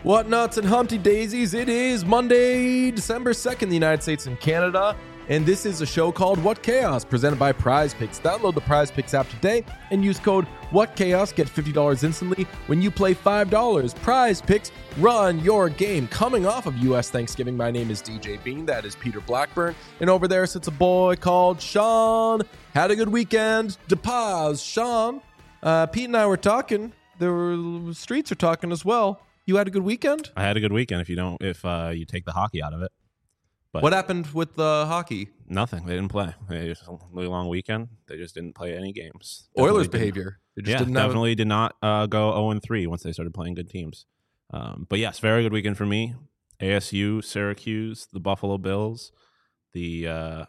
What nuts and Humpty Daisies? It is Monday, December 2nd in the United States and Canada, and this is a show called What Chaos, presented by Prize Picks. Download the Prize Picks app today and use code WhatChaos. Get $50 instantly when you play $5. Prize Picks, run your game. Coming off of U.S. Thanksgiving, my name is DJ Bean. That is Peter Blackburn. And over there sits a boy called Sean. Had a good weekend. DePaz, Sean. Pete and I were talking. The streets are talking as well. You had a good weekend? I had a good weekend if you take the hockey out of it. But what happened with the hockey? Nothing. They didn't play. They just a really long weekend. They just didn't play any games. Oilers behavior. Definitely did not go 0-3 once they started playing good teams. But yes, very good weekend for me. ASU, Syracuse, the Buffalo Bills, what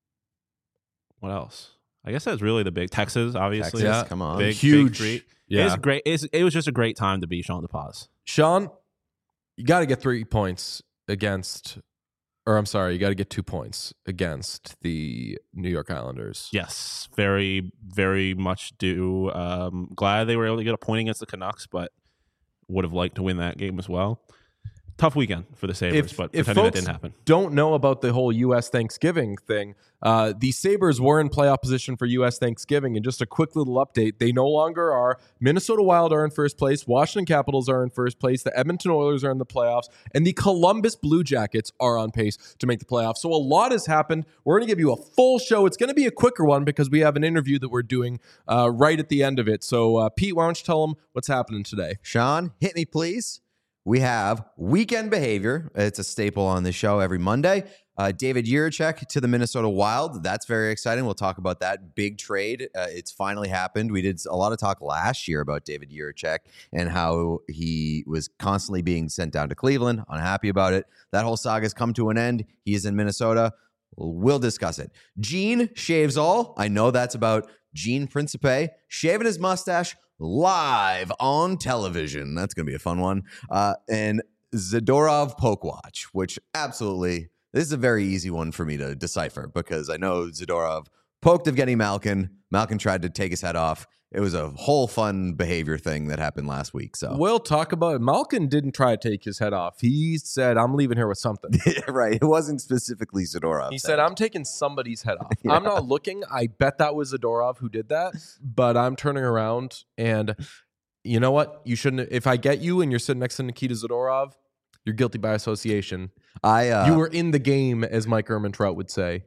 else? I guess that's really the big Texas, obviously. Texas, yeah, come on. Big treat. Yeah. It's great. It was just a great time to be Sean DePaz. Sean, you got to get 3 points against, or I'm sorry, you got to get 2 points against the New York Islanders. Yes, very, very much do. Glad they were able to get a point against the Canucks, but would have liked to win that game as well. Tough weekend for the Sabres, but pretending that didn't happen. Don't know about the whole U.S. Thanksgiving thing. The Sabres were in playoff position for U.S. Thanksgiving, and just a quick little update, they no longer are. Minnesota Wild are in first place. Washington Capitals are in first place. The Edmonton Oilers are in the playoffs, and the Columbus Blue Jackets are on pace to make the playoffs. So a lot has happened. We're going to give you a full show. It's going to be a quicker one because we have an interview that we're doing right at the end of it. So, Pete, why don't you tell them what's happening today? Sean, hit me, please. We have weekend behavior. It's a staple on the show every Monday. David Jiricek to the Minnesota Wild. That's very exciting. We'll talk about that big trade. It's finally happened. We did a lot of talk last year about David Jiricek and how he was constantly being sent down to Cleveland. Unhappy about it. That whole saga's come to an end. He is in Minnesota. We'll discuss it. Gene shaves all. I know that's about Gene Principe shaving his mustache live on television. That's going to be a fun one. And Zadorov Poke Watch, which absolutely, this is a very easy one for me to decipher because I know Zadorov poked Evgeny Malkin. Malkin tried to take his head off. It was a whole fun behavior thing that happened last week. So we'll talk about it. Malkin didn't try to take his head off. He said, I'm leaving here with something. Right. It wasn't specifically Zadorov. He said, I'm taking somebody's head off. Yeah. I'm not looking. I bet that was Zadorov who did that, but I'm turning around and you know what? You shouldn't. If I get you and you're sitting next to Nikita Zadorov, you're guilty by association. You were in the game, as Mike Ehrmantraut would say.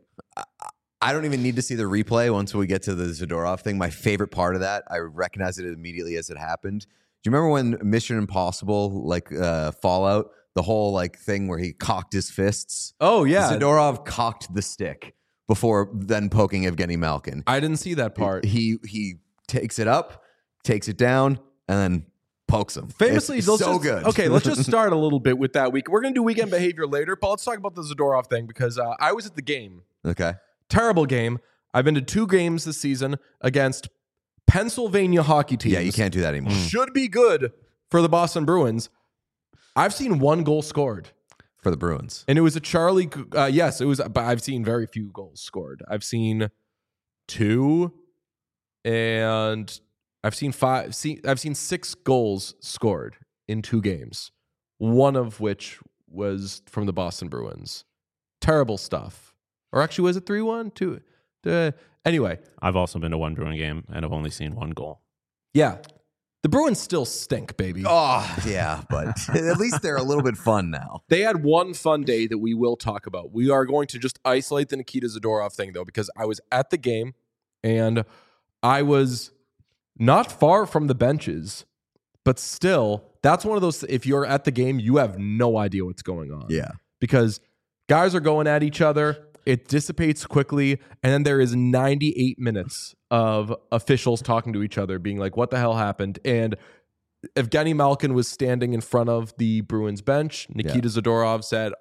I don't even need to see the replay once we get to the Zadorov thing. My favorite part of that, I recognized it immediately as it happened. Do you remember when Mission Impossible, Fallout, the whole thing where he cocked his fists? Oh, yeah. Zadorov cocked the stick before then poking Evgeny Malkin. I didn't see that part. He takes it up, takes it down, and then pokes him. Famously, so good. Okay, let's just start a little bit with that week. We're going to do weekend behavior later, but let's talk about the Zadorov thing because I was at the game. Okay. Terrible game. I've been to 2 games this season against Pennsylvania hockey teams. Yeah, you can't do that anymore. Should be good for the Boston Bruins. I've seen 1 goal scored. For the Bruins. And it was a Charlie... yes, it was... But I've seen very few goals scored. I've seen 2 and I've seen 5... I've seen 6 goals scored in 2 games. One of which was from the Boston Bruins. Terrible stuff. Or actually, was it 3-1? 2? Anyway. I've also been to 1 Bruin game, and I've only seen 1 goal. Yeah. The Bruins still stink, baby. Oh, yeah, but at least they're a little bit fun now. They had one fun day that we will talk about. We are going to just isolate the Nikita Zadorov thing, though, because I was at the game, and I was not far from the benches, but still, that's one of those, if you're at the game, you have no idea what's going on. Yeah. Because guys are going at each other. It dissipates quickly, and then there is 98 minutes of officials talking to each other, being like, what the hell happened? And Evgeny Malkin was standing in front of the Bruins bench. Nikita Zadorov said,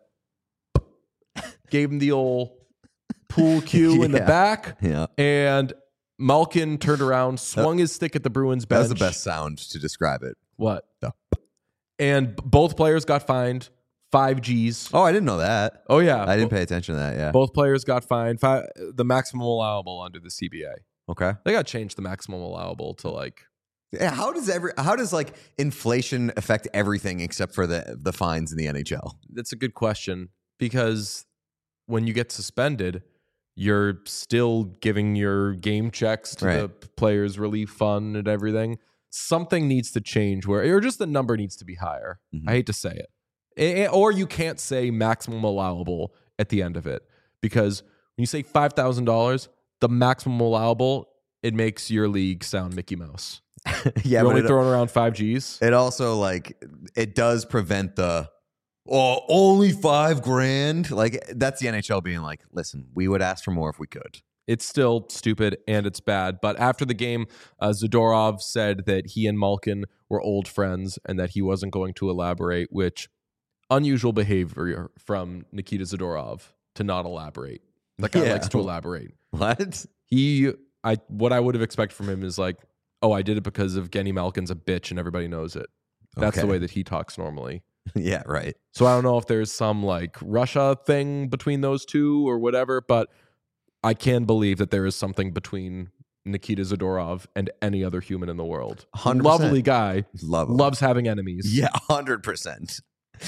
gave him the old pool cue in the back, and Malkin turned around, swung his stick at the Bruins bench. That was the best sound to describe it. What? And both players got fined 5 Gs. Oh, I didn't know that. Oh, yeah. I didn't pay attention to that, yeah. Both players got fined the maximum allowable under the CBA. Okay. They got to change the maximum allowable to Yeah, how does like inflation affect everything except for the fines in the NHL? That's a good question, because when you get suspended, you're still giving your game checks to the players' relief fund and everything. Something needs to change or just the number needs to be higher. I hate to say it. Or you can't say maximum allowable at the end of it, because when you say $5,000, the maximum allowable, it makes your league sound Mickey Mouse. Yeah, you're only throwing around 5 Gs. It also like it does prevent the only $5,000. Like that's the NHL being like, listen, we would ask for more if we could. It's still stupid and it's bad. But after the game, Zadorov said that he and Malkin were old friends and that he wasn't going to elaborate, which unusual behavior from Nikita Zadorov to not elaborate. That guy likes to elaborate. What? What I would have expected from him is like, oh, I did it because of Genny Malkin's a bitch and everybody knows it. That's the way that he talks normally. Yeah, right. So I don't know if there's some like Russia thing between those two or whatever, but I can believe that there is something between Nikita Zadorov and any other human in the world. 100%. Lovely guy. Loves having enemies. Yeah, 100%.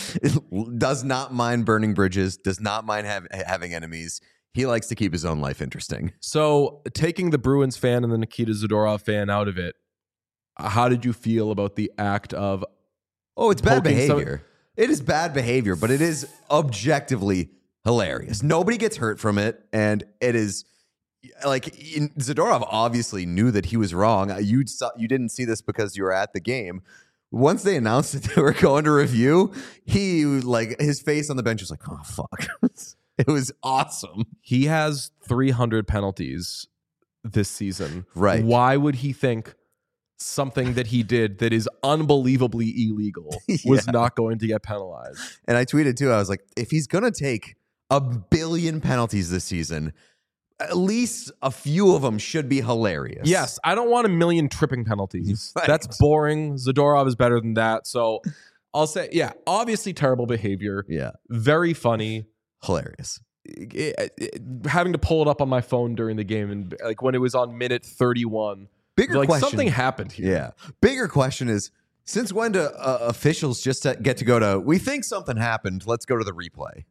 Does not mind burning bridges. Does not mind having enemies. He likes to keep his own life interesting. So taking the Bruins fan and the Nikita Zadorov fan out of it, how did you feel about the act of... Oh, it's bad behavior. It is bad behavior, but it is objectively hilarious. Nobody gets hurt from it, and it is like Zadorov obviously knew that he was wrong. You didn't see this because you were at the game. Once they announced that they were going to review, he like his face on the bench was like, "Oh fuck." It was awesome. He has 300 penalties this season. Right. Why would he think something that he did that is unbelievably illegal was not going to get penalized? And I tweeted too. I was like, if he's going to take 1 billion penalties this season, at least a few of them should be hilarious. Yes. I don't want 1 million tripping penalties. Right. That's boring. Zadorov is better than that. So I'll say, yeah, obviously terrible behavior. Yeah. Very funny. Hilarious. Having to pull it up on my phone during the game and like when it was on minute 31. Bigger like question. Something happened here. Yeah. Bigger question is, since when do officials just get to go to, we think something happened, let's go to the replay?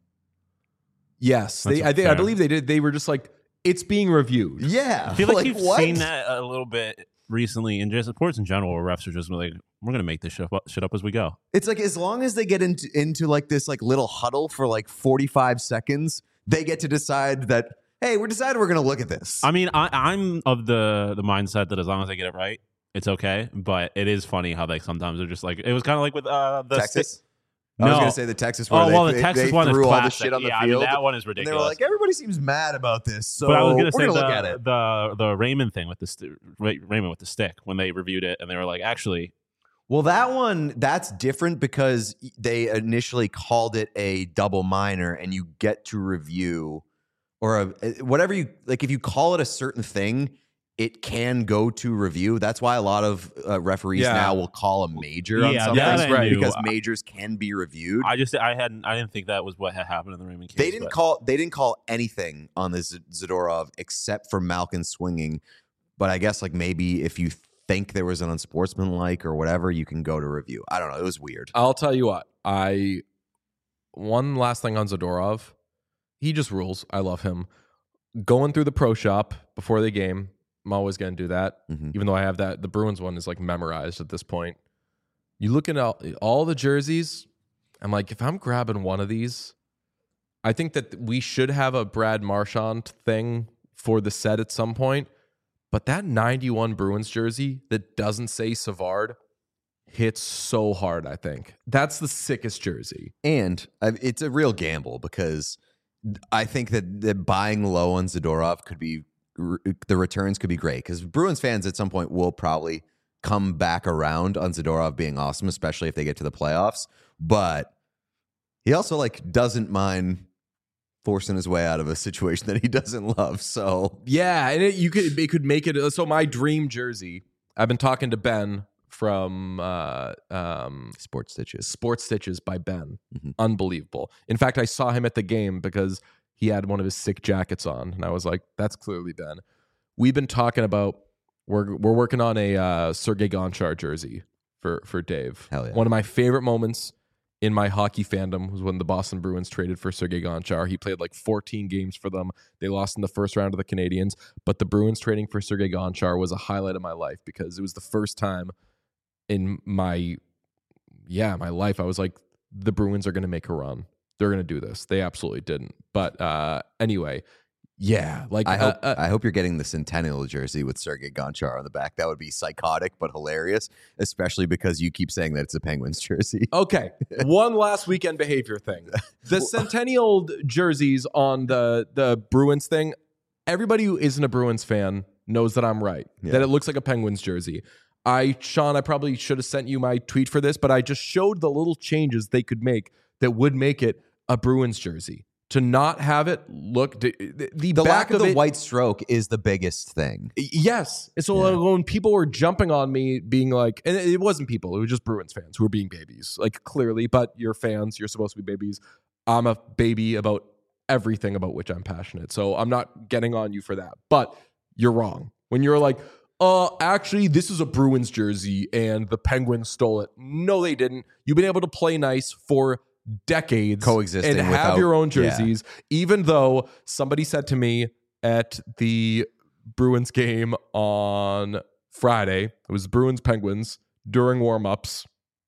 Yes. I believe they did. They were just like, it's being reviewed. Yeah. I feel like you've seen that a little bit recently in just sports in general, where refs are just like, we're going to make this shit up as we go. It's like, as long as they get into like this like little huddle for like 45 seconds, they get to decide that, hey, we're deciding we're going to look at this. I mean, I'm of the mindset that as long as I get it right, it's okay. But it is funny how they sometimes are just like, it was kind of like with the Texas. No. I was going to say the Texas one. The Texas one threw is all the shit on the field. I mean, that one is ridiculous. And they were like, everybody seems mad about this, so but I was going to say look at it. The Raymond thing with Raymond with the stick when they reviewed it, and they were like, actually. Well, that one, that's different because they initially called it a double minor, and you get to review or whatever you like. If you call it a certain thing, it can go to review. That's why a lot of referees now will call a major on something, right? Because majors can be reviewed. I didn't think that was what had happened in the Raymond case. They didn't call anything on the Zadorov except for Malkin swinging. But I guess like maybe if you think there was an unsportsmanlike or whatever, you can go to review. I don't know. It was weird. I'll tell you what. One last thing on Zadorov. He just rules. I love him. Going through the pro shop before the game, I'm always going to do that, even though I have that. The Bruins one is like memorized at this point. You look at all the jerseys, I'm like, if I'm grabbing one of these, I think that we should have a Brad Marchand thing for the set at some point. But that 91 Bruins jersey that doesn't say Savard hits so hard, I think. That's the sickest jersey. And it's a real gamble because I think that buying low on Zadorov could be, the returns could be great because Bruins fans at some point will probably come back around on Zadorov being awesome, especially if they get to the playoffs. But he also like doesn't mind forcing his way out of a situation that he doesn't love. So yeah, and it could make it. So my dream jersey. I've been talking to Ben from Sports Stitches by Ben. Unbelievable. In fact, I saw him at the game because he had one of his sick jackets on, and I was like, "That's clearly Ben." We've been talking about we're working on a Sergei Gonchar jersey for Dave. Hell yeah. One of my favorite moments in my hockey fandom was when the Boston Bruins traded for Sergei Gonchar. He played like 14 games for them. They lost in the first round of the Canadiens, but the Bruins trading for Sergei Gonchar was a highlight of my life because it was the first time in my life I was like, the Bruins are going to make a run. They're going to do this. They absolutely didn't. But anyway, yeah. Like I hope you're getting the Centennial jersey with Sergei Gonchar on the back. That would be psychotic but hilarious, especially because you keep saying that it's a Penguins jersey. Okay. One last weekend behavior thing. The Centennial jerseys on the Bruins thing, everybody who isn't a Bruins fan knows that I'm right. Yeah. That it looks like a Penguins jersey. Sean, I probably should have sent you my tweet for this, but I just showed the little changes they could make that would make it a Bruins jersey. To not have it look the back lack of the it, white stroke is the biggest thing. Yes. And so when people were jumping on me being like, and it wasn't people, it was just Bruins fans who were being babies, like clearly, but you're fans, you're supposed to be babies. I'm a baby about everything about which I'm passionate. So I'm not getting on you for that, but you're wrong. When you're like, actually, this is a Bruins jersey and the Penguins stole it. No, they didn't. You've been able to play nice for decades, coexisting and have your own jerseys, even though somebody said to me at the Bruins game on Friday, it was Bruins Penguins during warmups,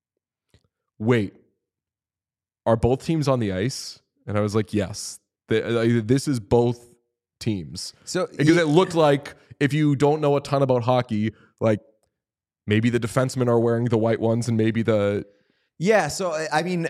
wait, are both teams on the ice? And I was like, yes, this is both teams. So because it looked like, if you don't know a ton about hockey, like maybe the defensemen are wearing the white ones and maybe the Yeah, so I mean,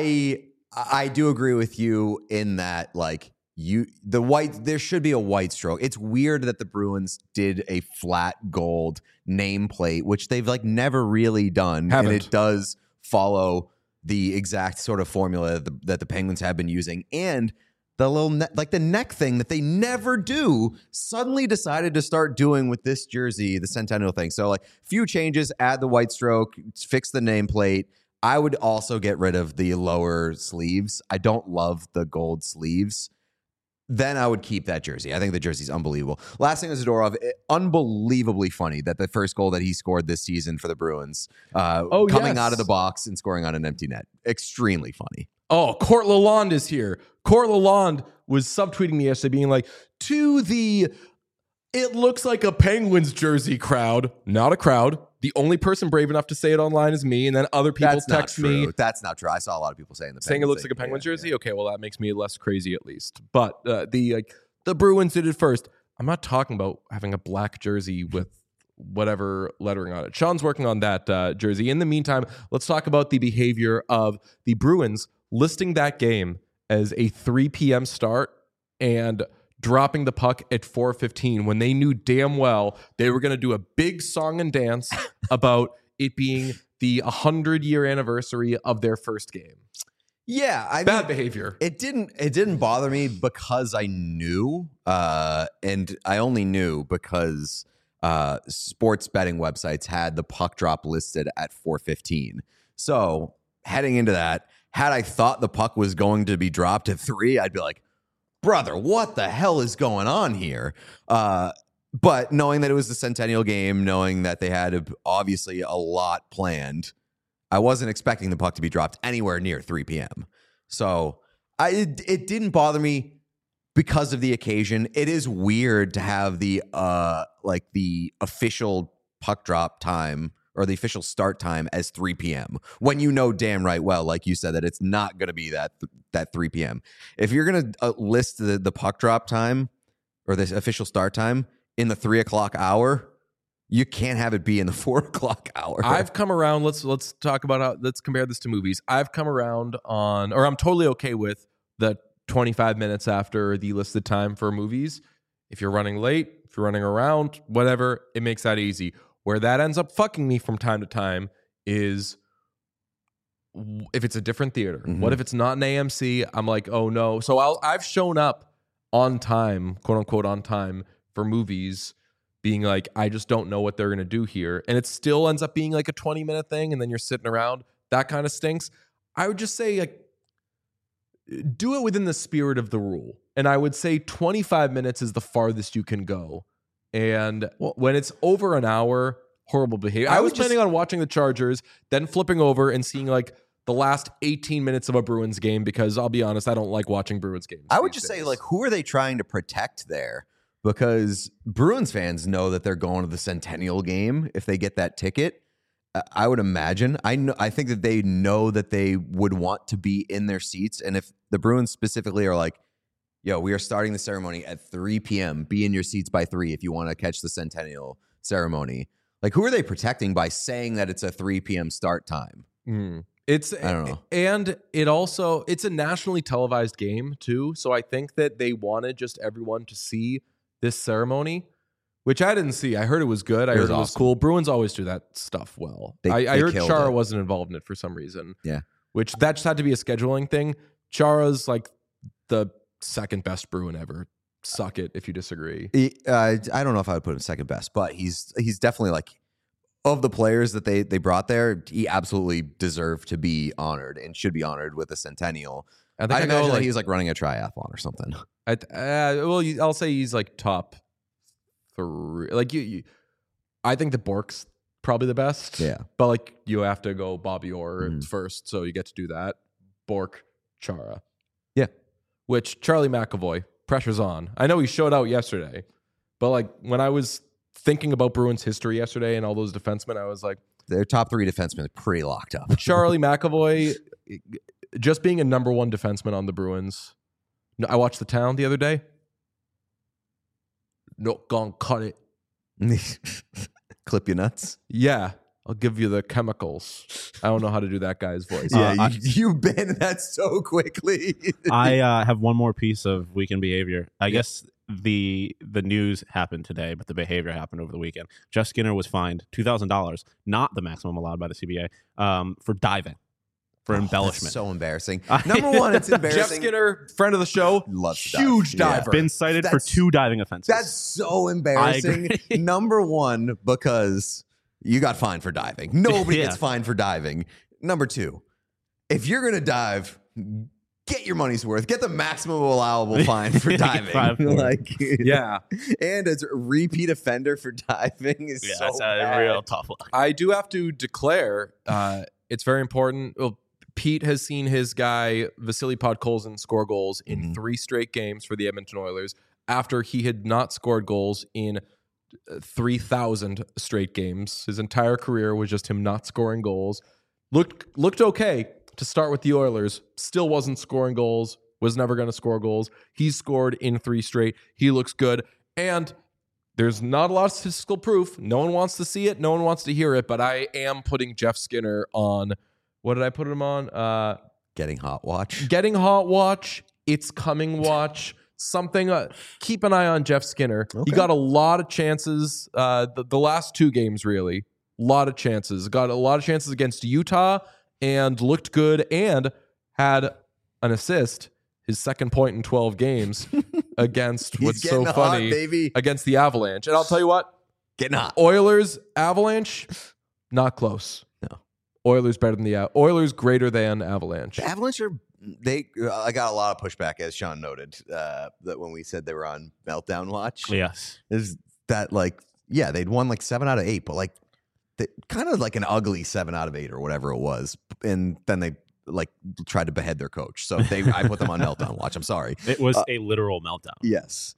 I do agree with you in that, like, there should be a white stroke. It's weird that the Bruins did a flat gold nameplate, which they've like never really done, and it does follow the exact sort of formula that the Penguins have been using, and the little the neck thing that they never do suddenly decided to start doing with this jersey, the Centennial thing. So like few changes, add the white stroke, fix the nameplate. I would also get rid of the lower sleeves. I don't love the gold sleeves. Then I would keep that jersey. I think the jersey's unbelievable. Last thing is Zadorov, unbelievably funny that the first goal that he scored this season for the Bruins, coming out of the box and scoring on an empty net. Extremely funny. Oh, Court Lalonde is here. Court Lalonde was subtweeting me yesterday being like, it looks like a Penguins jersey crowd. Not a crowd. The only person brave enough to say it online is me, and then other people text me. That's not true. I saw a lot of people saying it looks like a Penguins jersey. Yeah. Okay, well that makes me less crazy at least. But the Bruins did it first. I'm not talking about having a black jersey with whatever lettering on it. Sean's working on that jersey. In the meantime, let's talk about the behavior of the Bruins listing that game as a 3 p.m. start and dropping the puck at 4:15 when they knew damn well they were going to do a big song and dance about it being the 100-year anniversary of their first game. Yeah, bad behavior. It didn't bother me because I knew, and I only knew because sports betting websites had the puck drop listed at 4:15. So heading into that, had I thought the puck was going to be dropped at 3, I'd be like, brother, what the hell is going on here? But knowing that it was the Centennial game, knowing that they had obviously a lot planned, I wasn't expecting the puck to be dropped anywhere near 3 p.m. So it didn't bother me because of the occasion. It is weird to have the official puck drop time or the official start time as 3 p.m. when you know damn right well, like you said, that it's not going to be that 3 p.m. If you're going to list the puck drop time or the official start time in the 3 o'clock hour, you can't have it be in the 4 o'clock hour. I've come around. Let's talk about let's compare this to movies. I've come around I'm totally okay with the 25 minutes after the listed time for movies. If you're running late, if you're running around, whatever, it makes that easy. Where that ends up fucking me from time to time is if it's a different theater. Mm-hmm. What if it's not an AMC? I'm like, oh no. So I've shown up on time, quote unquote on time, for movies, being like, I just don't know what they're going to do here. And it still ends up being like a 20-minute thing, and then you're sitting around. That kind of stinks. I would just say, like, do it within the spirit of the rule. And I would say 25 minutes is the farthest you can go. And when it's over an hour, horrible behavior. I was planning on watching the Chargers, then flipping over and seeing like the last 18 minutes of a Bruins game, because I'll be honest, I don't like watching Bruins games. I would just say, like, who are they trying to protect there? Because Bruins fans know that they're going to the Centennial game if they get that ticket. I would imagine. I think that they know that they would want to be in their seats. And if the Bruins specifically are like, yo, we are starting the ceremony at 3 p.m. Be in your seats by 3 if you want to catch the Centennial ceremony. Like, who are they protecting by saying that it's a 3 p.m. start time? I don't know. And it's a nationally televised game too. So I think that they wanted just everyone to see this ceremony, which I didn't see. I heard it was good. I heard it was cool. Bruins always do that stuff well. I heard Chara wasn't involved in it for some reason. Yeah. Which that just had to be a scheduling thing. Chara's like the second best Bruin ever. Suck it if you disagree. I don't know if I would put him second best, but he's definitely like, of the players that they brought there, he absolutely deserved to be honored and should be honored with a Centennial. I imagine that he's like running a triathlon or something. I'll say he's like top 3. Like I think the Bork's probably the best. Yeah, but like you have to go Bobby Orr first, so you get to do that. Bork, Chara, yeah. Which Charlie McAvoy, pressure's on. I know he showed out yesterday, but like when I was thinking about Bruins history yesterday and all those defensemen, I was like, their top 3 defensemen are pretty locked up. Charlie McAvoy, just being a number 1 defenseman on the Bruins. I watched The Town the other day. Not gonna cut it. Clip your nuts. Yeah, I'll give you the chemicals. I don't know how to do that guy's voice. Yeah, you banned that so quickly. I have one more piece of weekend behavior. I guess the news happened today, but the behavior happened over the weekend. Jeff Skinner was fined $2,000, not the maximum allowed by the CBA, for diving, for embellishment. That's so embarrassing. Number one, it's embarrassing. Jeff Skinner, friend of the show, huge diver. Been cited for 2 diving offenses. That's so embarrassing. Number one, because you got fined for diving. Nobody gets fined for diving. Number 2, if you're going to dive, get your money's worth. Get the maximum allowable fine for diving. And as a repeat offender for diving is so that's bad. A real tough look. I do have to declare, it's very important. Well, Pete has seen his guy Vasily Podkolzin score goals in 3 straight games for the Edmonton Oilers after he had not scored goals in 3,000 straight games. His entire career was just him not scoring goals. Looked okay to start with the Oilers, still wasn't scoring goals, was never going to score goals. He's scored in 3 straight. He looks good. And there's not a lot of statistical proof. No one wants to see it. No one wants to hear it. But I am putting Jeff Skinner on, what did I put him on? Getting Hot Watch. Getting Hot Watch. It's Coming Watch. Something. Keep an eye on Jeff Skinner. Okay. He got a lot of chances. The last 2 games, really. A lot of chances. Got a lot of chances against Utah and looked good and had an assist, his second point in 12 games against what's so funny, baby. Against the Avalanche. And I'll tell you what, getting hot. Oilers, Avalanche, not close. No. Oilers better than the Oilers greater than Avalanche. The Avalanche are I got a lot of pushback, as Sean noted, that when we said they were on meltdown watch. Yes. Is that they'd won like 7 out of 8, but like kind of like an ugly 7 out of 8 or whatever it was. And then they like tried to behead their coach. So I put them on meltdown watch. I'm sorry. It was a literal meltdown. Yes.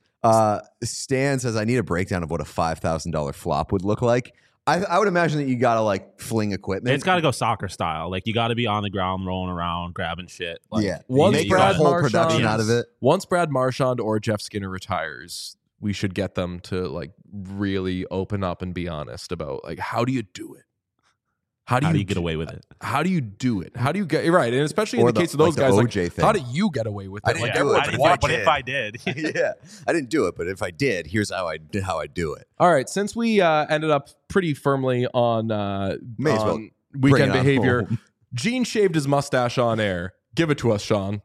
Stan says, I need a breakdown of what a $5,000 flop would look like. I would imagine that you got to like fling equipment. It's got to go soccer style. Like you got to be on the ground, rolling around, grabbing shit. Like, make a whole production out of it. Once Brad Marchand or Jeff Skinner retires, we should get them to like really open up and be honest about like, how do you do it? How do you get away with it? How do you do it? How do you get right? And especially in the case of those guys, like, how do you get away with it? I didn't do it. But if I did, yeah, I didn't do it. But if I did, here's how I do it. All right, since we ended up pretty firmly on weekend behavior, Gene shaved his mustache on air. Give it to us, Sean.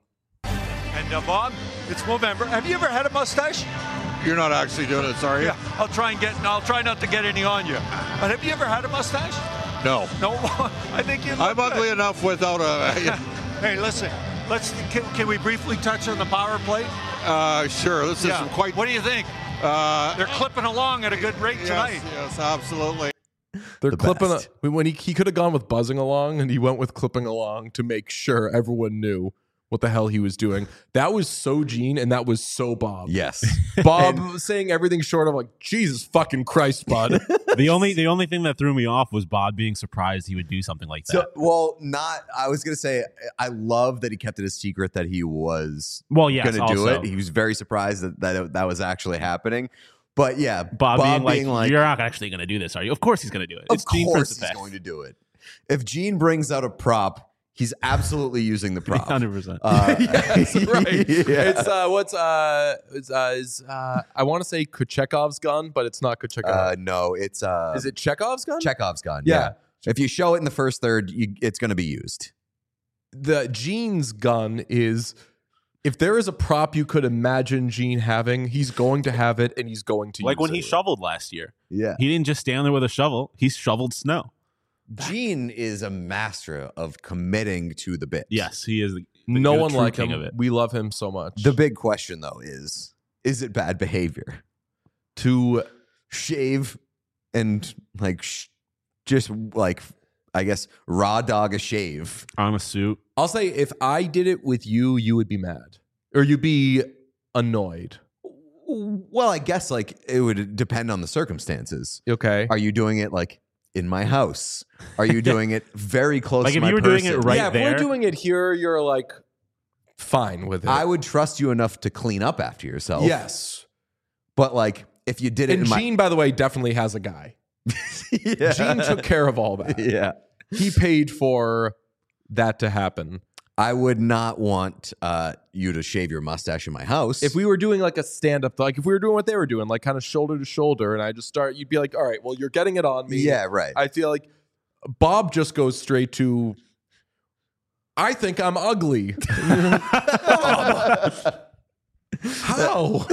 And Bob, it's Movember. Have you ever had a mustache? You're not actually doing it, sorry. Yeah, I'll try not to get any on you. But have you ever had a mustache? No. No, I think you. I'm ugly enough without a. Hey, listen. Can we briefly touch on the power play? Sure. This is quite. What do you think? They're clipping along at a good rate tonight. Yes, absolutely. They're The clipping. best. When he could have gone with buzzing along, and he went with clipping along to make sure everyone knew what the hell he was doing. That was so Gene, and that was so Bob. Yes. Bob saying everything short of like, Jesus fucking Christ, bud. The only thing that threw me off was Bob being surprised he would do something like that. I was going to say, I love that he kept it a secret that he was Well, yes, going to do also. it. He was very surprised that was actually happening. But yeah, Bob being like, you're not actually going to do this, are you? Of course he's going to do it. of It's Gene course he's Principe. going to do it. If Gene brings out a prop, he's absolutely using the prop. 100%. Yes, right. Yeah. It's I want to say Kuchekov's gun, but it's not Kuchekov. No, it's Is it Chekhov's gun? Chekhov's gun. Yeah. If you show it in the first third, it's going to be used. The Gene's gun is, if there is a prop you could imagine Gene having, he's going to have it, and he's going to Like use when he it. shoveled last year. Yeah. He didn't just stand there with a shovel. He shoveled snow. Gene is a master of committing to the bit. Yes, he is. No the one true like king him. of it. We love him so much. The big question, though, is it bad behavior to shave and just like, I guess, raw dog a shave? On a suit. I'll say, if I did it with you, you would be mad, or you'd be annoyed. Well, I guess like it would depend on the circumstances. Okay. Are you doing it like in my house? Are you doing it very close Like to if my you were doing person? it right yeah, if there. we're doing it here, you're like fine with it. I would trust you enough to clean up after yourself. Yes. But like if you did it And in my Gene, by the way, definitely has a guy. yeah. Gene took care of all that. Yeah. He paid for that to happen. I would not want you to shave your mustache in my house. If we were doing like a stand-up, like if we were doing what they were doing, like kind of shoulder to shoulder, and I just start, you'd be like, all right, well, you're getting it on me. Yeah, right. I feel like Bob just goes straight to, I think I'm ugly. How?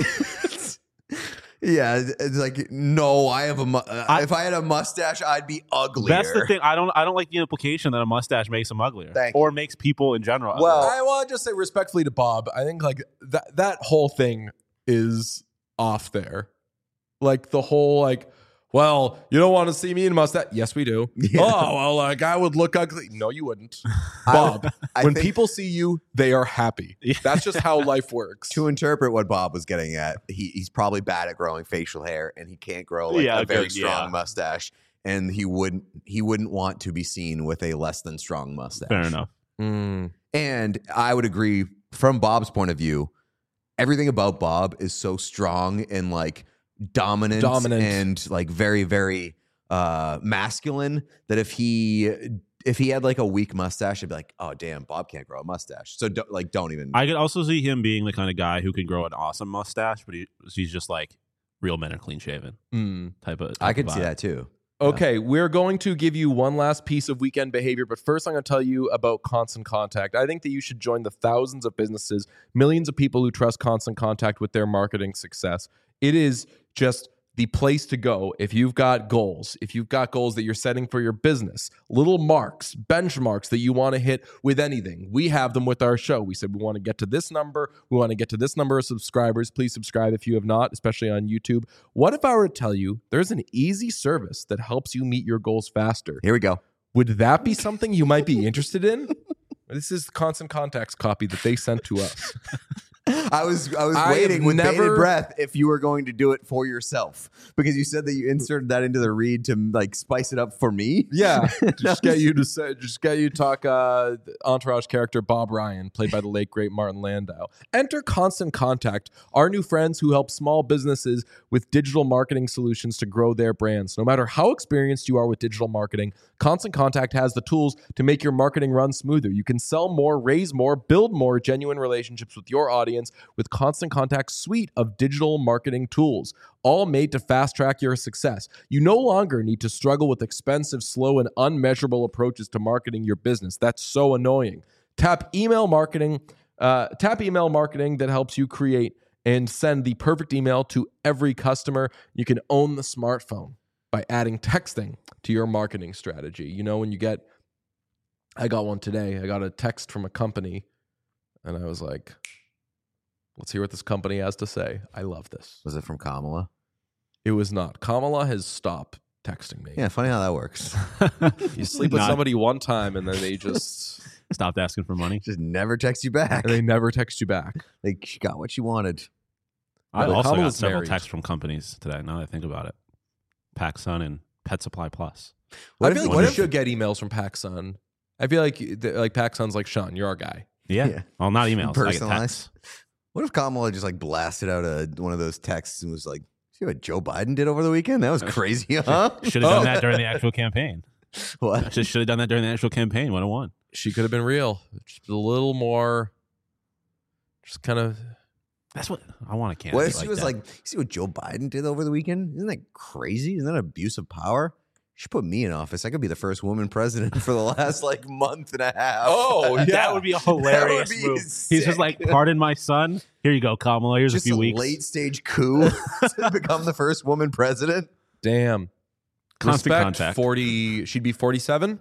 Yeah, it's like no, I have if I had a mustache, I'd be uglier. That's the thing. I don't like the implication that a mustache makes him uglier, Thank or makes people in general. Well, uglier. I want to just say respectfully to Bob, I think like that whole thing is off there. Like the whole like, well, you don't want to see me in mustache. Yes, we do. Yeah. Oh, well, like I would look ugly. No, you wouldn't. Bob, I when think- people see you, they are happy. That's just how life works. to interpret what Bob was getting at, he's probably bad at growing facial hair, and he can't grow like Yeah, a very good, strong yeah. mustache, and he wouldn't want to be seen with a less than strong mustache. Fair enough. Mm. And I would agree from Bob's point of view, everything about Bob is so strong and like dominant. And like very, very masculine that if he had like a weak mustache, I'd be like, oh damn, Bob can't grow a mustache. So don't even. I could also see him being the kind of guy who can grow an awesome mustache, but he's just like real men are clean shaven Mm. type of. I could of see vibe. that too. Okay, we're going to give you one last piece of weekend behavior, but first I'm going to tell you about Constant Contact. I think that you should join the thousands of businesses, millions of people who trust Constant Contact with their marketing success. It is just the place to go if you've got goals, that you're setting for your business, little marks, benchmarks that you want to hit with anything. We have them with our show. We said we want to get to this number. We want to get to this number of subscribers. Please subscribe if you have not, especially on YouTube. What if I were to tell you there's an easy service that helps you meet your goals faster? Here we go. Would that be something you might be interested in? This is Constant Contact's copy that they sent to us. I was I waiting have with bated never- breath if you were going to do it for yourself, because you said that you inserted that into the read to like spice it up for me. Yeah, just get you to talk Entourage character Bob Ryan, played by the late great Martin Landau. Enter Constant Contact, our new friends who help small businesses with digital marketing solutions to grow their brands. No matter how experienced you are with digital marketing, Constant Contact has the tools to make your marketing run smoother. You can sell more, raise more, build more genuine relationships with your audience with Constant Contact's suite of digital marketing tools, all made to fast track your success. You no longer need to struggle with expensive, slow, and unmeasurable approaches to marketing your business. That's so annoying. Tap email marketing that helps you create and send the perfect email to every customer. You can own the smartphone by adding texting to your marketing strategy. You know, when I got one today. I got a text from a company, and I was like, Let's hear what this company has to say. I love this. Was it from Kamala? It was not. Kamala has stopped texting me. Yeah, funny how that works. You sleep with Not- somebody one time and then they just Stopped asking for money. Just never text you back. and they never text you back. Like, she got what she wanted. I But also got Kamala's several married. texts from companies today. Now that I think about it, PacSun and Pet Supply Plus. I feel like you should get emails from PacSun. I feel like PacSun's like, Sean, you're our guy. Yeah. Well, not emails. I get Personalized. texts. What if Kamala just like blasted out one of those texts and was like, "See what Joe Biden did over the weekend? That was crazy, huh?" Should have done that during the actual campaign. What? Should have done that during the actual campaign. 101. She could have been real. Just a little more, just kind of. That's what I want. A candidate. What if she like was that. like, "See what Joe Biden did over the weekend? Isn't that crazy? Isn't that abuse of power? She put me in office. I could be the first woman president for the last like month and a half." Oh, yeah. That would be a hilarious be move. sick. He's just like, "Pardon my son. Here you go, Kamala. Here's Just a few a weeks." late stage coup to become the first woman president. Damn. Constant Respect, contact. 40. She'd be 47.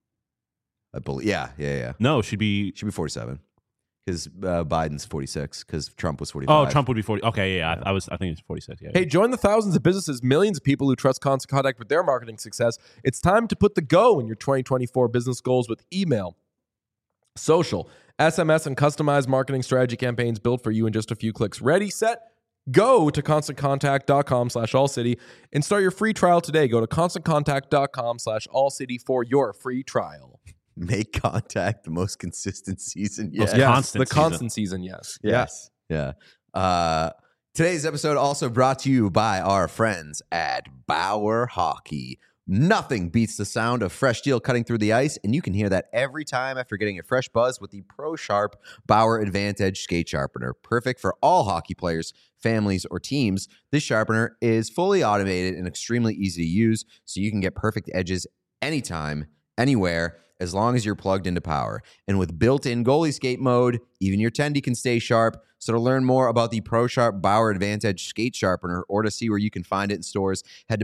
I believe. Yeah. No, she'd be. She'd be 47 because Biden's 46 because Trump was 45. Oh, Trump would be 40. Okay, yeah. I think it's 46. Yeah. Hey, join the thousands of businesses, millions of people who trust Constant Contact with their marketing success. It's time to put the go in your 2024 business goals with email, social, SMS, and customized marketing strategy campaigns built for you in just a few clicks. Ready, set, go to ConstantContact.com/AllCity and start your free trial today. Go to ConstantContact.com/AllCity for your free trial. Make contact the most consistent season yet. Most Yes, constant the season. constant season, yes. Yes. Yeah. Today's episode also brought to you by our friends at Bauer Hockey. Nothing beats the sound of fresh steel cutting through the ice, and you can hear that every time after getting a fresh buzz with the Pro Sharp Bauer Advantage Skate Sharpener. Perfect for all hockey players, families, or teams. This sharpener is fully automated and extremely easy to use, so you can get perfect edges anytime, anywhere, as long as you're plugged into power. And with built-in goalie skate mode, even your tendy can stay sharp. So to learn more about the Pro Sharp Bauer Advantage Skate Sharpener or to see where you can find it in stores, head to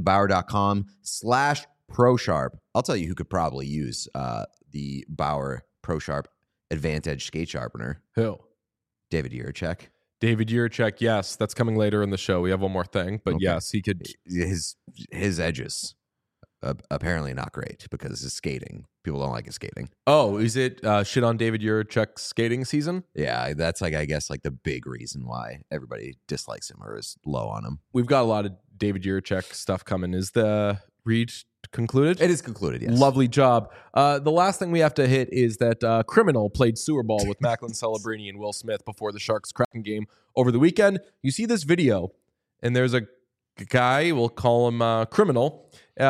Bauer.com/ProSharp. I'll tell you who could probably use the Bauer Pro Sharp Advantage Skate Sharpener. Who? David Yurchek. David Yurchek, yes. That's coming later in the show. We have one more thing, but Okay. yes, he could. His edges, apparently not great because his skating. People don't like his skating. Oh, is it shit on David Yurchek's skating season? Yeah, that's like, I guess, like the big reason why everybody dislikes him or is low on him. We've got a lot of David Yurchek stuff coming. Is the read concluded? It is concluded, yes. Lovely job. The last thing we have to hit is that Criminal played sewer ball with Macklin Celebrini and Will Smith before the Sharks Kraken game over the weekend. You see this video, and there's a guy, we'll call him Criminal.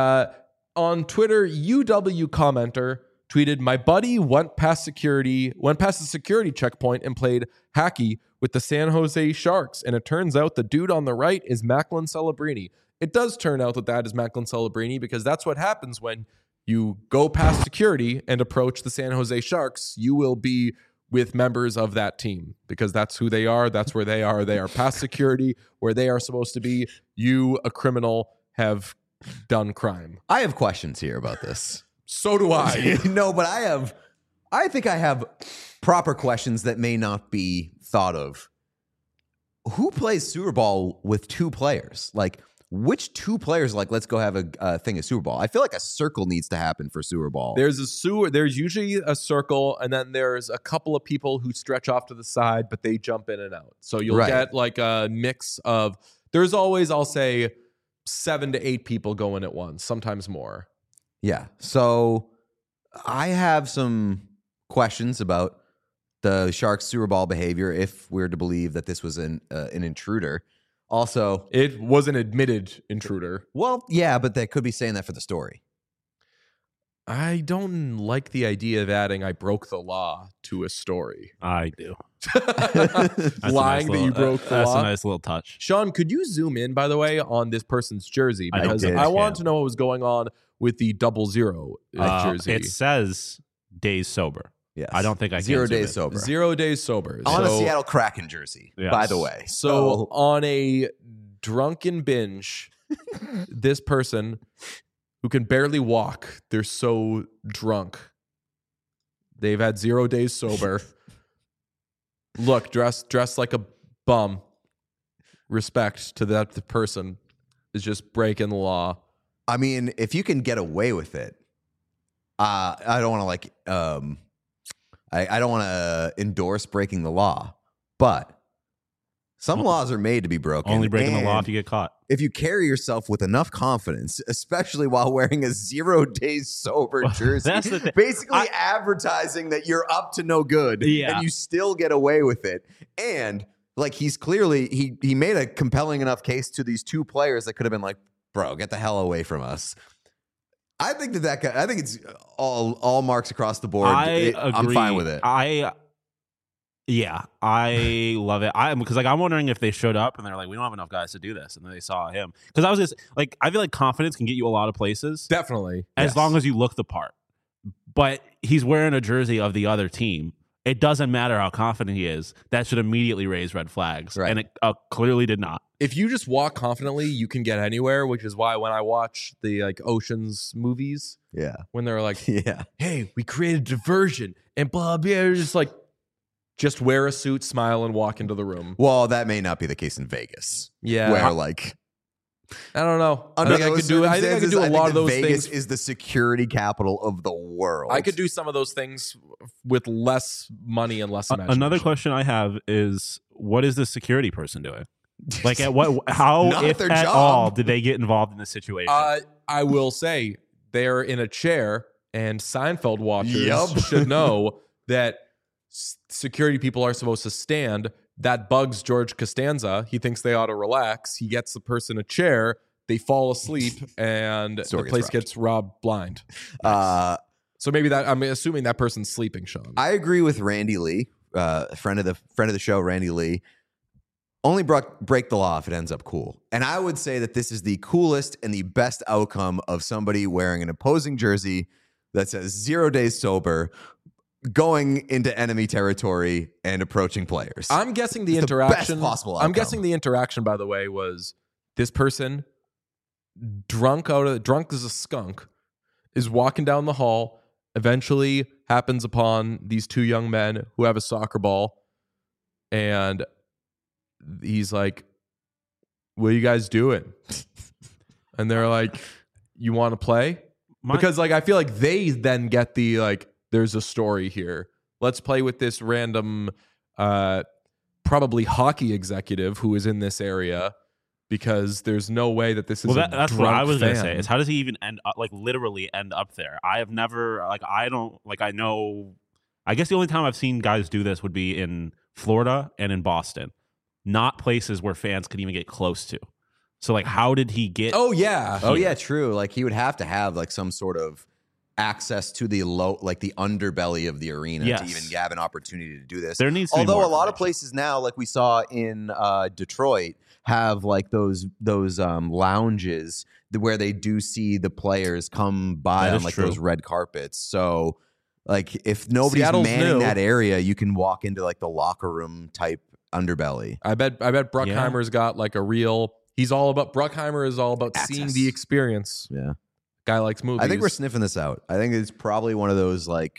On Twitter, UW commenter tweeted, "My buddy went past the security checkpoint and played hacky with the San Jose Sharks. And it turns out the dude on the right is Macklin Celebrini." It does turn out that is Macklin Celebrini because that's what happens when you go past security and approach the San Jose Sharks. You will be with members of that team because that's who they are. That's where they are. They are past security where they are supposed to be. You, a criminal, have done crime. I have questions here about this. So do I. No, but I think I have proper questions that may not be thought of. Who plays sewer ball with two players? Like, which two players, like, let's go have a thing of sewer ball? I feel like a circle needs to happen for sewer ball. There's usually a circle, and then there's a couple of people who stretch off to the side, but they jump in and out. So you'll Right. get like a mix of, there's always, I'll say, 7 to 8 people going at once, sometimes more. Yeah. So I have some questions about the Sharks sewer ball behavior if we're to believe that this was an intruder. Also, It was an admitted intruder. well, yeah, but they could be saying that for the story. I don't like the idea of adding "I broke the law" to a story. I do. Lying That's a nice that little- you broke the That's law. a nice little touch. Sean, could you zoom in, by the way, on this person's jersey? I Because did, I want yeah. to know what was going on with the 00 jersey. It says days sober. Yes. I don't think I can 0 zoom days in. sober. 0 days sober. On a So- Seattle Kraken jersey, Yes. by the way. So on a drunken binge, this person who can barely walk, they're so drunk. They've had 0 days sober. Look, dressed like a bum. Respect to that person is just breaking the law. I mean, if you can get away with it, I don't want to I don't want to endorse breaking the law, but some laws are made to be broken. Only breaking the law and if you get caught. if you carry yourself with enough confidence, especially while wearing a 0 days sober jersey, That's the thing. basically advertising that you're up to no good, Yeah. and you still get away with it. And like he's clearly he made a compelling enough case to these two players that could have been like, bro, get the hell away from us. I think that guy. I think it's all marks across the board. I agree. I'm fine with it. I love it. Because I'm wondering if they showed up and they're like, we don't have enough guys to do this, and then they saw him. Because I was just like, I feel like confidence can get you a lot of places Definitely. as Yes. long as you look the part. But he's wearing a jersey of the other team. It doesn't matter how confident he is. That should immediately raise red flags, Right. and it clearly did not. If you just walk confidently, you can get anywhere, which is why when I watch the like Ocean's movies, Yeah, when they're like, yeah. hey, we created diversion and blah, blah, you're just like, just wear a suit, smile, and walk into the room. Well, that may not be the case in Vegas. Yeah. where like I don't know. I under think I those could do. I think I could do a circumstances, lot of that those Vegas things. is the security capital of the world. I could do some of those things with less money and less imagination. Another question I have is, what is the security person doing? Like, at what? How, Not if their at job. all, did they get involved in this situation? I will say they're in a chair, and Seinfeld watchers Yup. should know that security people are supposed to stand. That bugs George Costanza. He thinks they ought to relax. He gets the person a chair. They fall asleep, and Store the gets place robbed. gets robbed blind. So maybe that I'm assuming that person's sleeping, Sean. I agree with Randy Lee, friend of the show, Randy Lee. Only break the law if it ends up cool. And I would say that this is the coolest and the best outcome of somebody wearing an opposing jersey that says 0 days sober, going into enemy territory and approaching players. I'm guessing the It's the interaction. best possible I'm outcome. guessing the interaction, by the way, was this person drunk as a skunk is walking down the hall. Eventually, happens upon these two young men who have a soccer ball, and he's like, "What are you guys doing?" And they're like, "You want to play?" Because like I feel like they then get the like, there's a story here. Let's play with this random probably hockey executive who is in this area, because there's no way that this is that's a what I drunk was going to fan. say. Is how does he even end up, like literally end up there? I have never, like, I don't, like, I know, I guess the only time I've seen guys do this would be in Florida and in Boston, not places where fans could even get close to. So, like, how did he get? Oh yeah. Oh yeah, true. Like he would have to have like some sort of access to the like the underbelly of the arena Yes. to even have an opportunity to do this. There needs to be Although more a lot of information. places now, like we saw in Detroit, have like those lounges where they do see the players come by That on is like true. those red carpets. So like if nobody's Seattle's manning new. that area, you can walk into like the locker room type underbelly. I bet Bruckheimer's got like a real. Bruckheimer is all about seeing Access. the experience. Yeah. Guy likes movies. I think we're sniffing this out. I think it's probably one of those like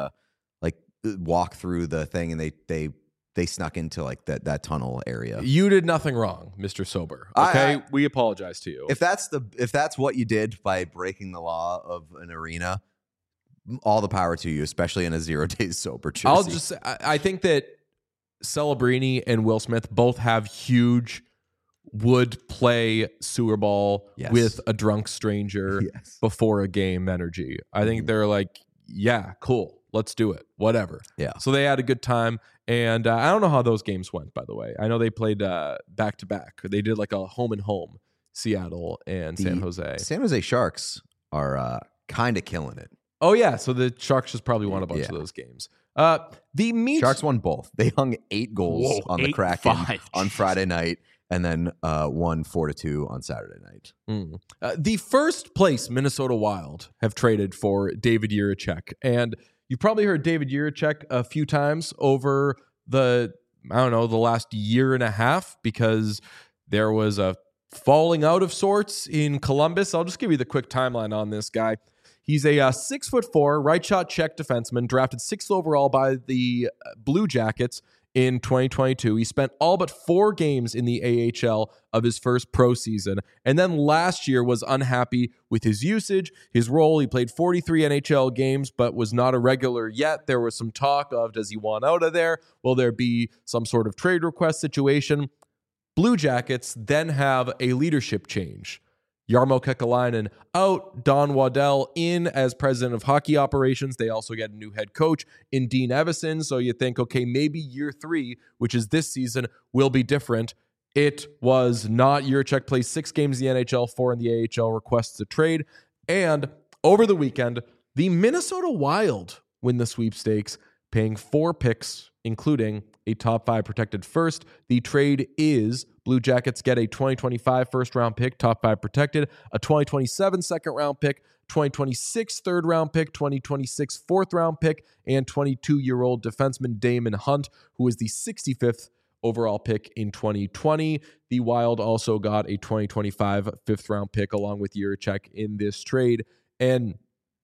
walk through the thing and they snuck into like that tunnel area. You did nothing wrong, Mr. Sober. I- Okay, we apologize to you. If that's what you did by breaking the law of an arena, all the power to you, especially in a 0 days sober jersey. I'll just say, I think that Celebrini and Will Smith both have huge would play sewer ball Yes. with a drunk stranger Yes. before a game energy. I think they're like, yeah, cool. Let's do it. Whatever. Yeah. So they had a good time. And I don't know how those games went, by the way. I know they played back to back. They did like a home and home, Seattle and San Jose. San Jose Sharks are kind of killing it. Oh, yeah. So the Sharks just probably won a bunch of those games. The meat. Sharks won both. They hung 8 goals Whoa, on the 8-5. Kraken on Friday night, and then won 4-2 on Saturday night. The first place Minnesota Wild have traded for David Jiricek. And you've probably heard David Jiricek a few times over the last year and a half, because there was a falling out of sorts in Columbus. I'll just give you the quick timeline on this guy. He's a 6'4" right shot Czech defenseman, drafted 6th overall by the Blue Jackets in 2022. He spent all but 4 games in the AHL of his first pro season. And then last year was unhappy with his usage, his role. He played 43 NHL games, but was not a regular yet. There was some talk of, does he want out of there? Will there be some sort of trade request situation? Blue Jackets then have a leadership change. Jarmo Kekalainen out, Don Waddell in as president of hockey operations. They also get a new head coach in Dean Evison. So you think, okay, maybe year 3, which is this season, will be different. It was not. Jiricek plays 6 games in the NHL, 4 in the AHL, requests a trade. And over the weekend, the Minnesota Wild win the sweepstakes, paying 4 picks, including a top 5 protected first. The trade is Blue Jackets get a 2025 first round pick, top 5 protected, a 2027 second round pick, 2026 third round pick, 2026 fourth round pick, and 22-year-old defenseman Damon Hunt, who is the 65th overall pick in 2020. The Wild also got a 2025 fifth round pick along with Jiricek in this trade. And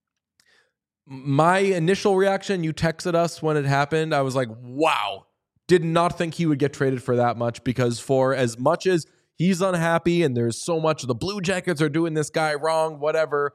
my initial reaction, you texted us when it happened, I was like, wow, did not think he would get traded for that much, because for as much as he's unhappy and there's so much the Blue Jackets are doing this guy wrong, whatever,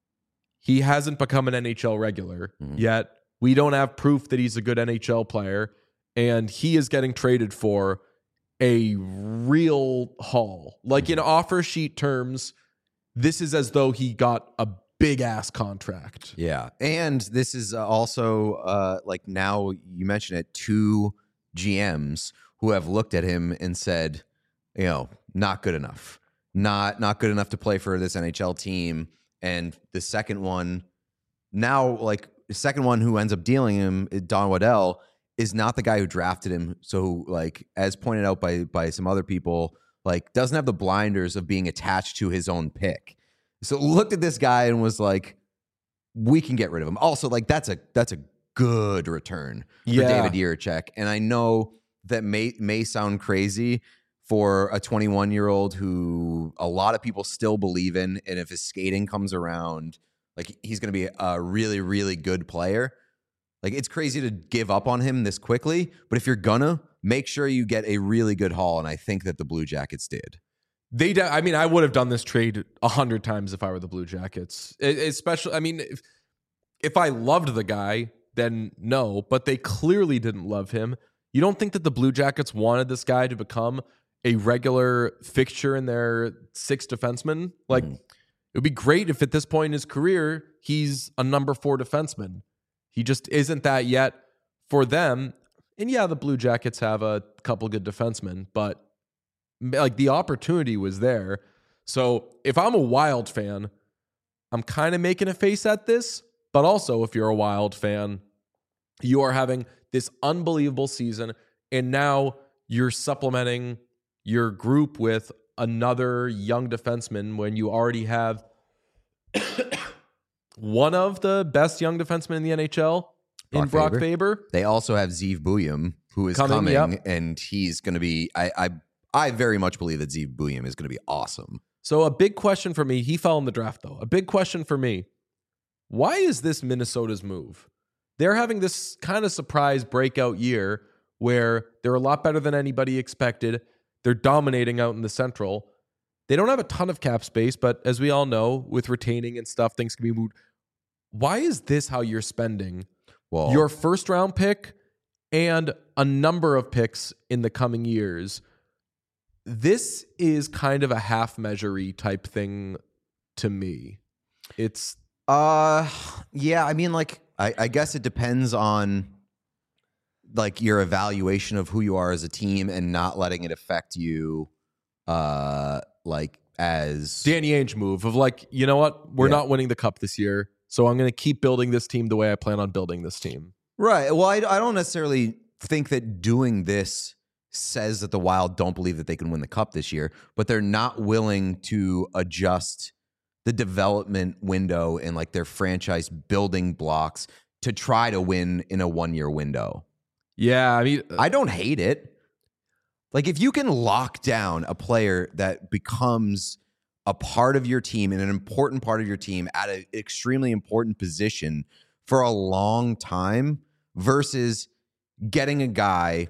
he hasn't become an NHL regular yet. We don't have proof that he's a good NHL player, and he is getting traded for a real haul. Like in offer sheet terms, this is as though he got a big ass contract. Yeah. And this is also like, now you mentioned it, 2 GMs who have looked at him and said, you know, not good enough. Not good enough to play for this NHL team. And the second one, now like the second one who ends up dealing him, Don Waddell, is not the guy who drafted him. So like, as pointed out by some other people, like doesn't have the blinders of being attached to his own pick. So looked at this guy and was like, we can get rid of him. Also, like that's a good return for David Jiricek. And I know that may sound crazy for a 21-year-old who a lot of people still believe in. And if his skating comes around, like he's going to be a really, really good player. Like it's crazy to give up on him this quickly, but if you're gonna, make sure you get a really good haul. And I think that the Blue Jackets did. I mean, I would have done this trade 100 times if I were the Blue Jackets. Especially, I mean, if I loved the guy, then no, but they clearly didn't love him. You don't think that the Blue Jackets wanted this guy to become a regular fixture in their 6 defensemen? Like, it would be great if at this point in his career, he's a number 4 defenseman. He just isn't that yet for them. And yeah, the Blue Jackets have a couple good defensemen, but like the opportunity was there. So if I'm a Wild fan, I'm kind of making a face at this, but also if you're a Wild fan, you are having this unbelievable season, and now you're supplementing your group with another young defenseman when you already have one of the best young defensemen in the NHL in Brock Faber. They also have Zeev Buium, who is coming yep. And he's going to be, I very much believe that Zeev Buium is going to be awesome. So a big question for me, he fell in the draft though. A big question for me, why is this Minnesota's move? They're having this kind of surprise breakout year where they're a lot better than anybody expected. They're dominating out in the Central. They don't have a ton of cap space, but as we all know, with retaining and stuff, things can be moved. Why is this how you're spending your first round pick and a number of picks in the coming years? This is kind of a half measure-y type thing to me. It's yeah, I mean, like I guess it depends on like your evaluation of who you are as a team and not letting it affect you like as Danny Ainge move of like, you know what? We're not winning the cup this year, so I'm going to keep building this team the way I plan on building this team. Right. Well, I don't necessarily think that doing this says that the Wild don't believe that they can win the cup this year, but they're not willing to adjust the development window and like their franchise building blocks to try to win in a 1-year window. Yeah, I mean, I don't hate it. Like if you can lock down a player that becomes a part of your team and an important part of your team at an extremely important position for a long time versus getting a guy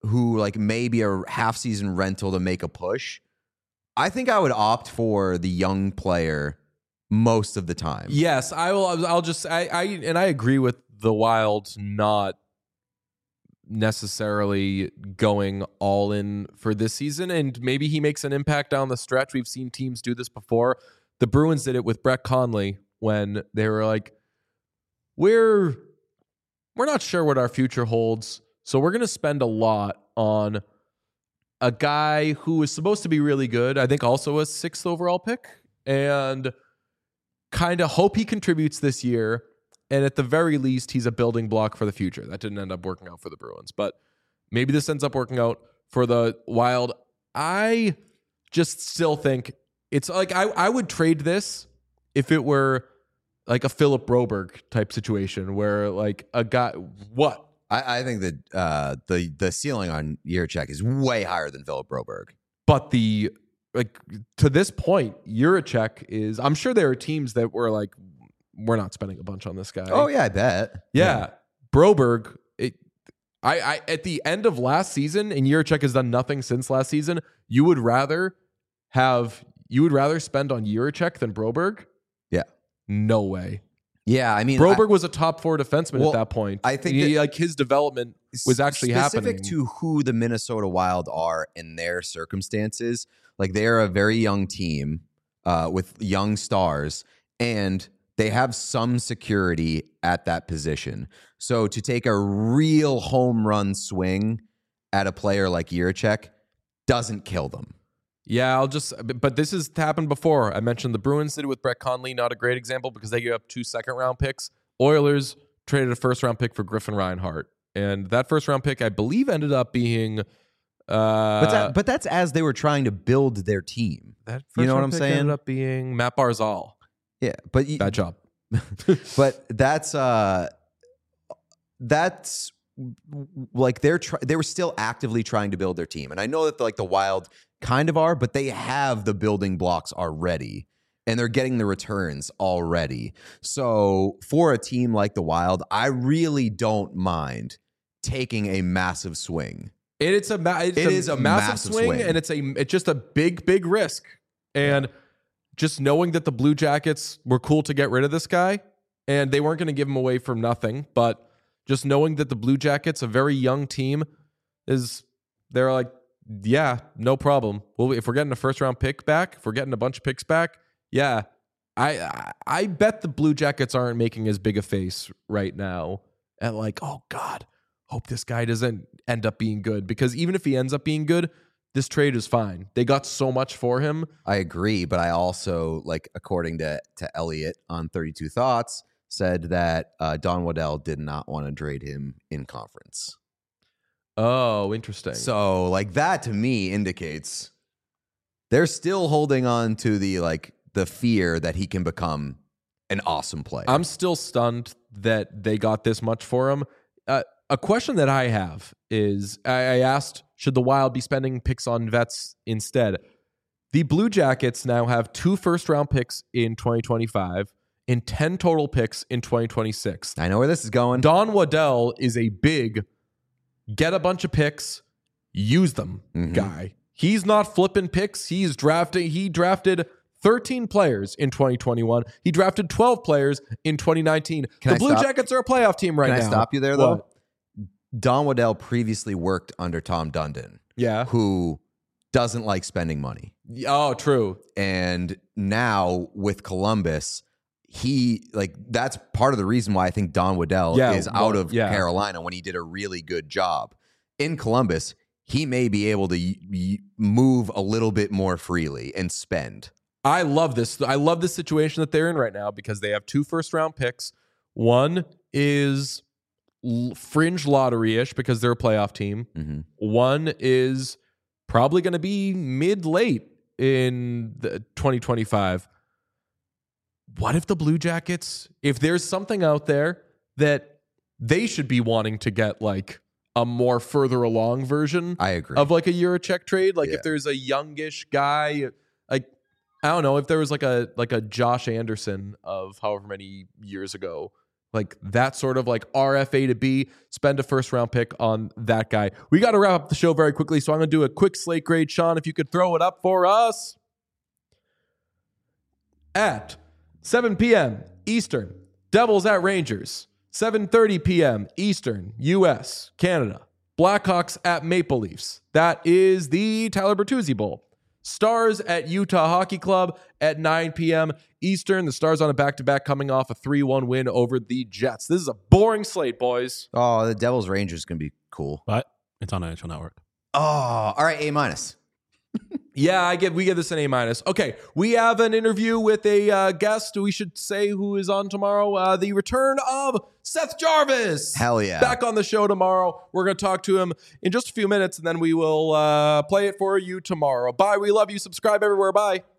who like maybe a half season rental to make a push, I think I would opt for the young player most of the time. Yes, I will. I'll just I agree with the Wild not necessarily going all in for this season, and maybe he makes an impact down the stretch. We've seen teams do this before. The Bruins did it with Brett Conley when they were like, we're not sure what our future holds, so we're going to spend a lot on a guy who is supposed to be really good, I think also a 6th overall pick, and kind of hope he contributes this year. And at the very least, he's a building block for the future. That didn't end up working out for the Bruins, but maybe this ends up working out for the Wild. I just still think it's like I would trade this if it were like a Philip Broberg type situation where like a guy, what? I think that the ceiling on Jiricek is way higher than Philip Broberg. But to this point, Jiricek is, I'm sure there are teams that were like, we're not spending a bunch on this guy. Oh yeah, I bet. Yeah. Broberg, I at the end of last season, and Jiricek has done nothing since last season, you would rather spend on Jiricek than Broberg? Yeah. No way. Yeah, I mean, Broberg was a top 4 defenseman at that point. I think like his development was actually specific happening. to who the Minnesota Wild are in their circumstances. Like they are a very young team with young stars, and they have some security at that position. So to take a real home run swing at a player like Jiricek doesn't kill them. Yeah, but this has happened before. I mentioned the Bruins did it with Brett Conley, not a great example because they gave up 2 second-round picks. Oilers traded a first-round pick for Griffin Reinhart. And that first-round pick, I believe, ended up being... but that's as they were trying to build their team. That you know what I'm pick saying? ended up being Matt Barzal. Yeah, but Bad job. but that's like they were still actively trying to build their team, and I know that like the Wild kind of are, but they have the building blocks already, and they're getting the returns already. So for a team like the Wild, I really don't mind taking a massive swing. It is a massive swing, and it's just a big risk. And just knowing that the Blue Jackets were cool to get rid of this guy, and they weren't going to give him away from nothing, but just knowing that the Blue Jackets, a very young team, they're like, yeah, no problem. Well, if we're getting a first-round pick back, if we're getting a bunch of picks back, yeah, I bet the Blue Jackets aren't making as big a face right now at like, oh God, hope this guy doesn't end up being good, because even if he ends up being good, this trade is fine. They got so much for him. I agree, but I also, like, according to Elliot on 32 Thoughts, said that Don Waddell did not want to trade him in conference. Oh, interesting. So, like, that to me indicates they're still holding on to the fear that he can become an awesome player. I'm still stunned that they got this much for him. A question that I have is, I asked, should the Wild be spending picks on vets instead? The Blue Jackets now have 2 first-round picks in 2025 and 10 total picks in 2026. I know where this is going. Don Waddell is a big get a bunch of picks, use them guy. He's not flipping picks. He drafted 13 players in 2021. He drafted 12 players in 2019. The Blue Jackets are a playoff team right now. Can I stop you there, though? Don Waddell previously worked under Tom Dundon. Yeah. Who doesn't like spending money. Oh, true. And now with Columbus, that's part of the reason why I think Don Waddell is out of Carolina when he did a really good job. In Columbus, he may be able to move a little bit more freely and spend. I love this. I love the situation that they're in right now because they have 2 first-round picks. One is fringe lottery-ish because they're a playoff team. Mm-hmm. One is probably going to be mid-late in 2025. What if the Blue Jackets, if there's something out there that they should be wanting to get like a more further along version I agree. of like a Jiricek trade, like if there's a youngish guy, like I don't know, if there was like a Josh Anderson of however many years ago, like that sort of like RFA to B, spend a first round pick on that guy. We got to wrap up the show very quickly, so I'm going to do a quick slate grade. Sean, if you could throw it up for us. At 7 p.m. Eastern, Devils at Rangers. 7:30 p.m. Eastern, U.S., Canada. Blackhawks at Maple Leafs. That is the Tyler Bertuzzi Bowl. Stars at Utah Hockey Club at 9 p.m. Eastern. The Stars on a back-to-back coming off a 3-1 win over the Jets. This is a boring slate, boys. Oh, the Devils Rangers is going to be cool. But it's on NHL Network. Oh, all right, A-. Yeah, we give this an A-. Okay, we have an interview with a guest. We should say who is on tomorrow. The return of Seth Jarvis. Hell yeah. Back on the show tomorrow. We're going to talk to him in just a few minutes, and then we will play it for you tomorrow. Bye. We love you. Subscribe everywhere. Bye.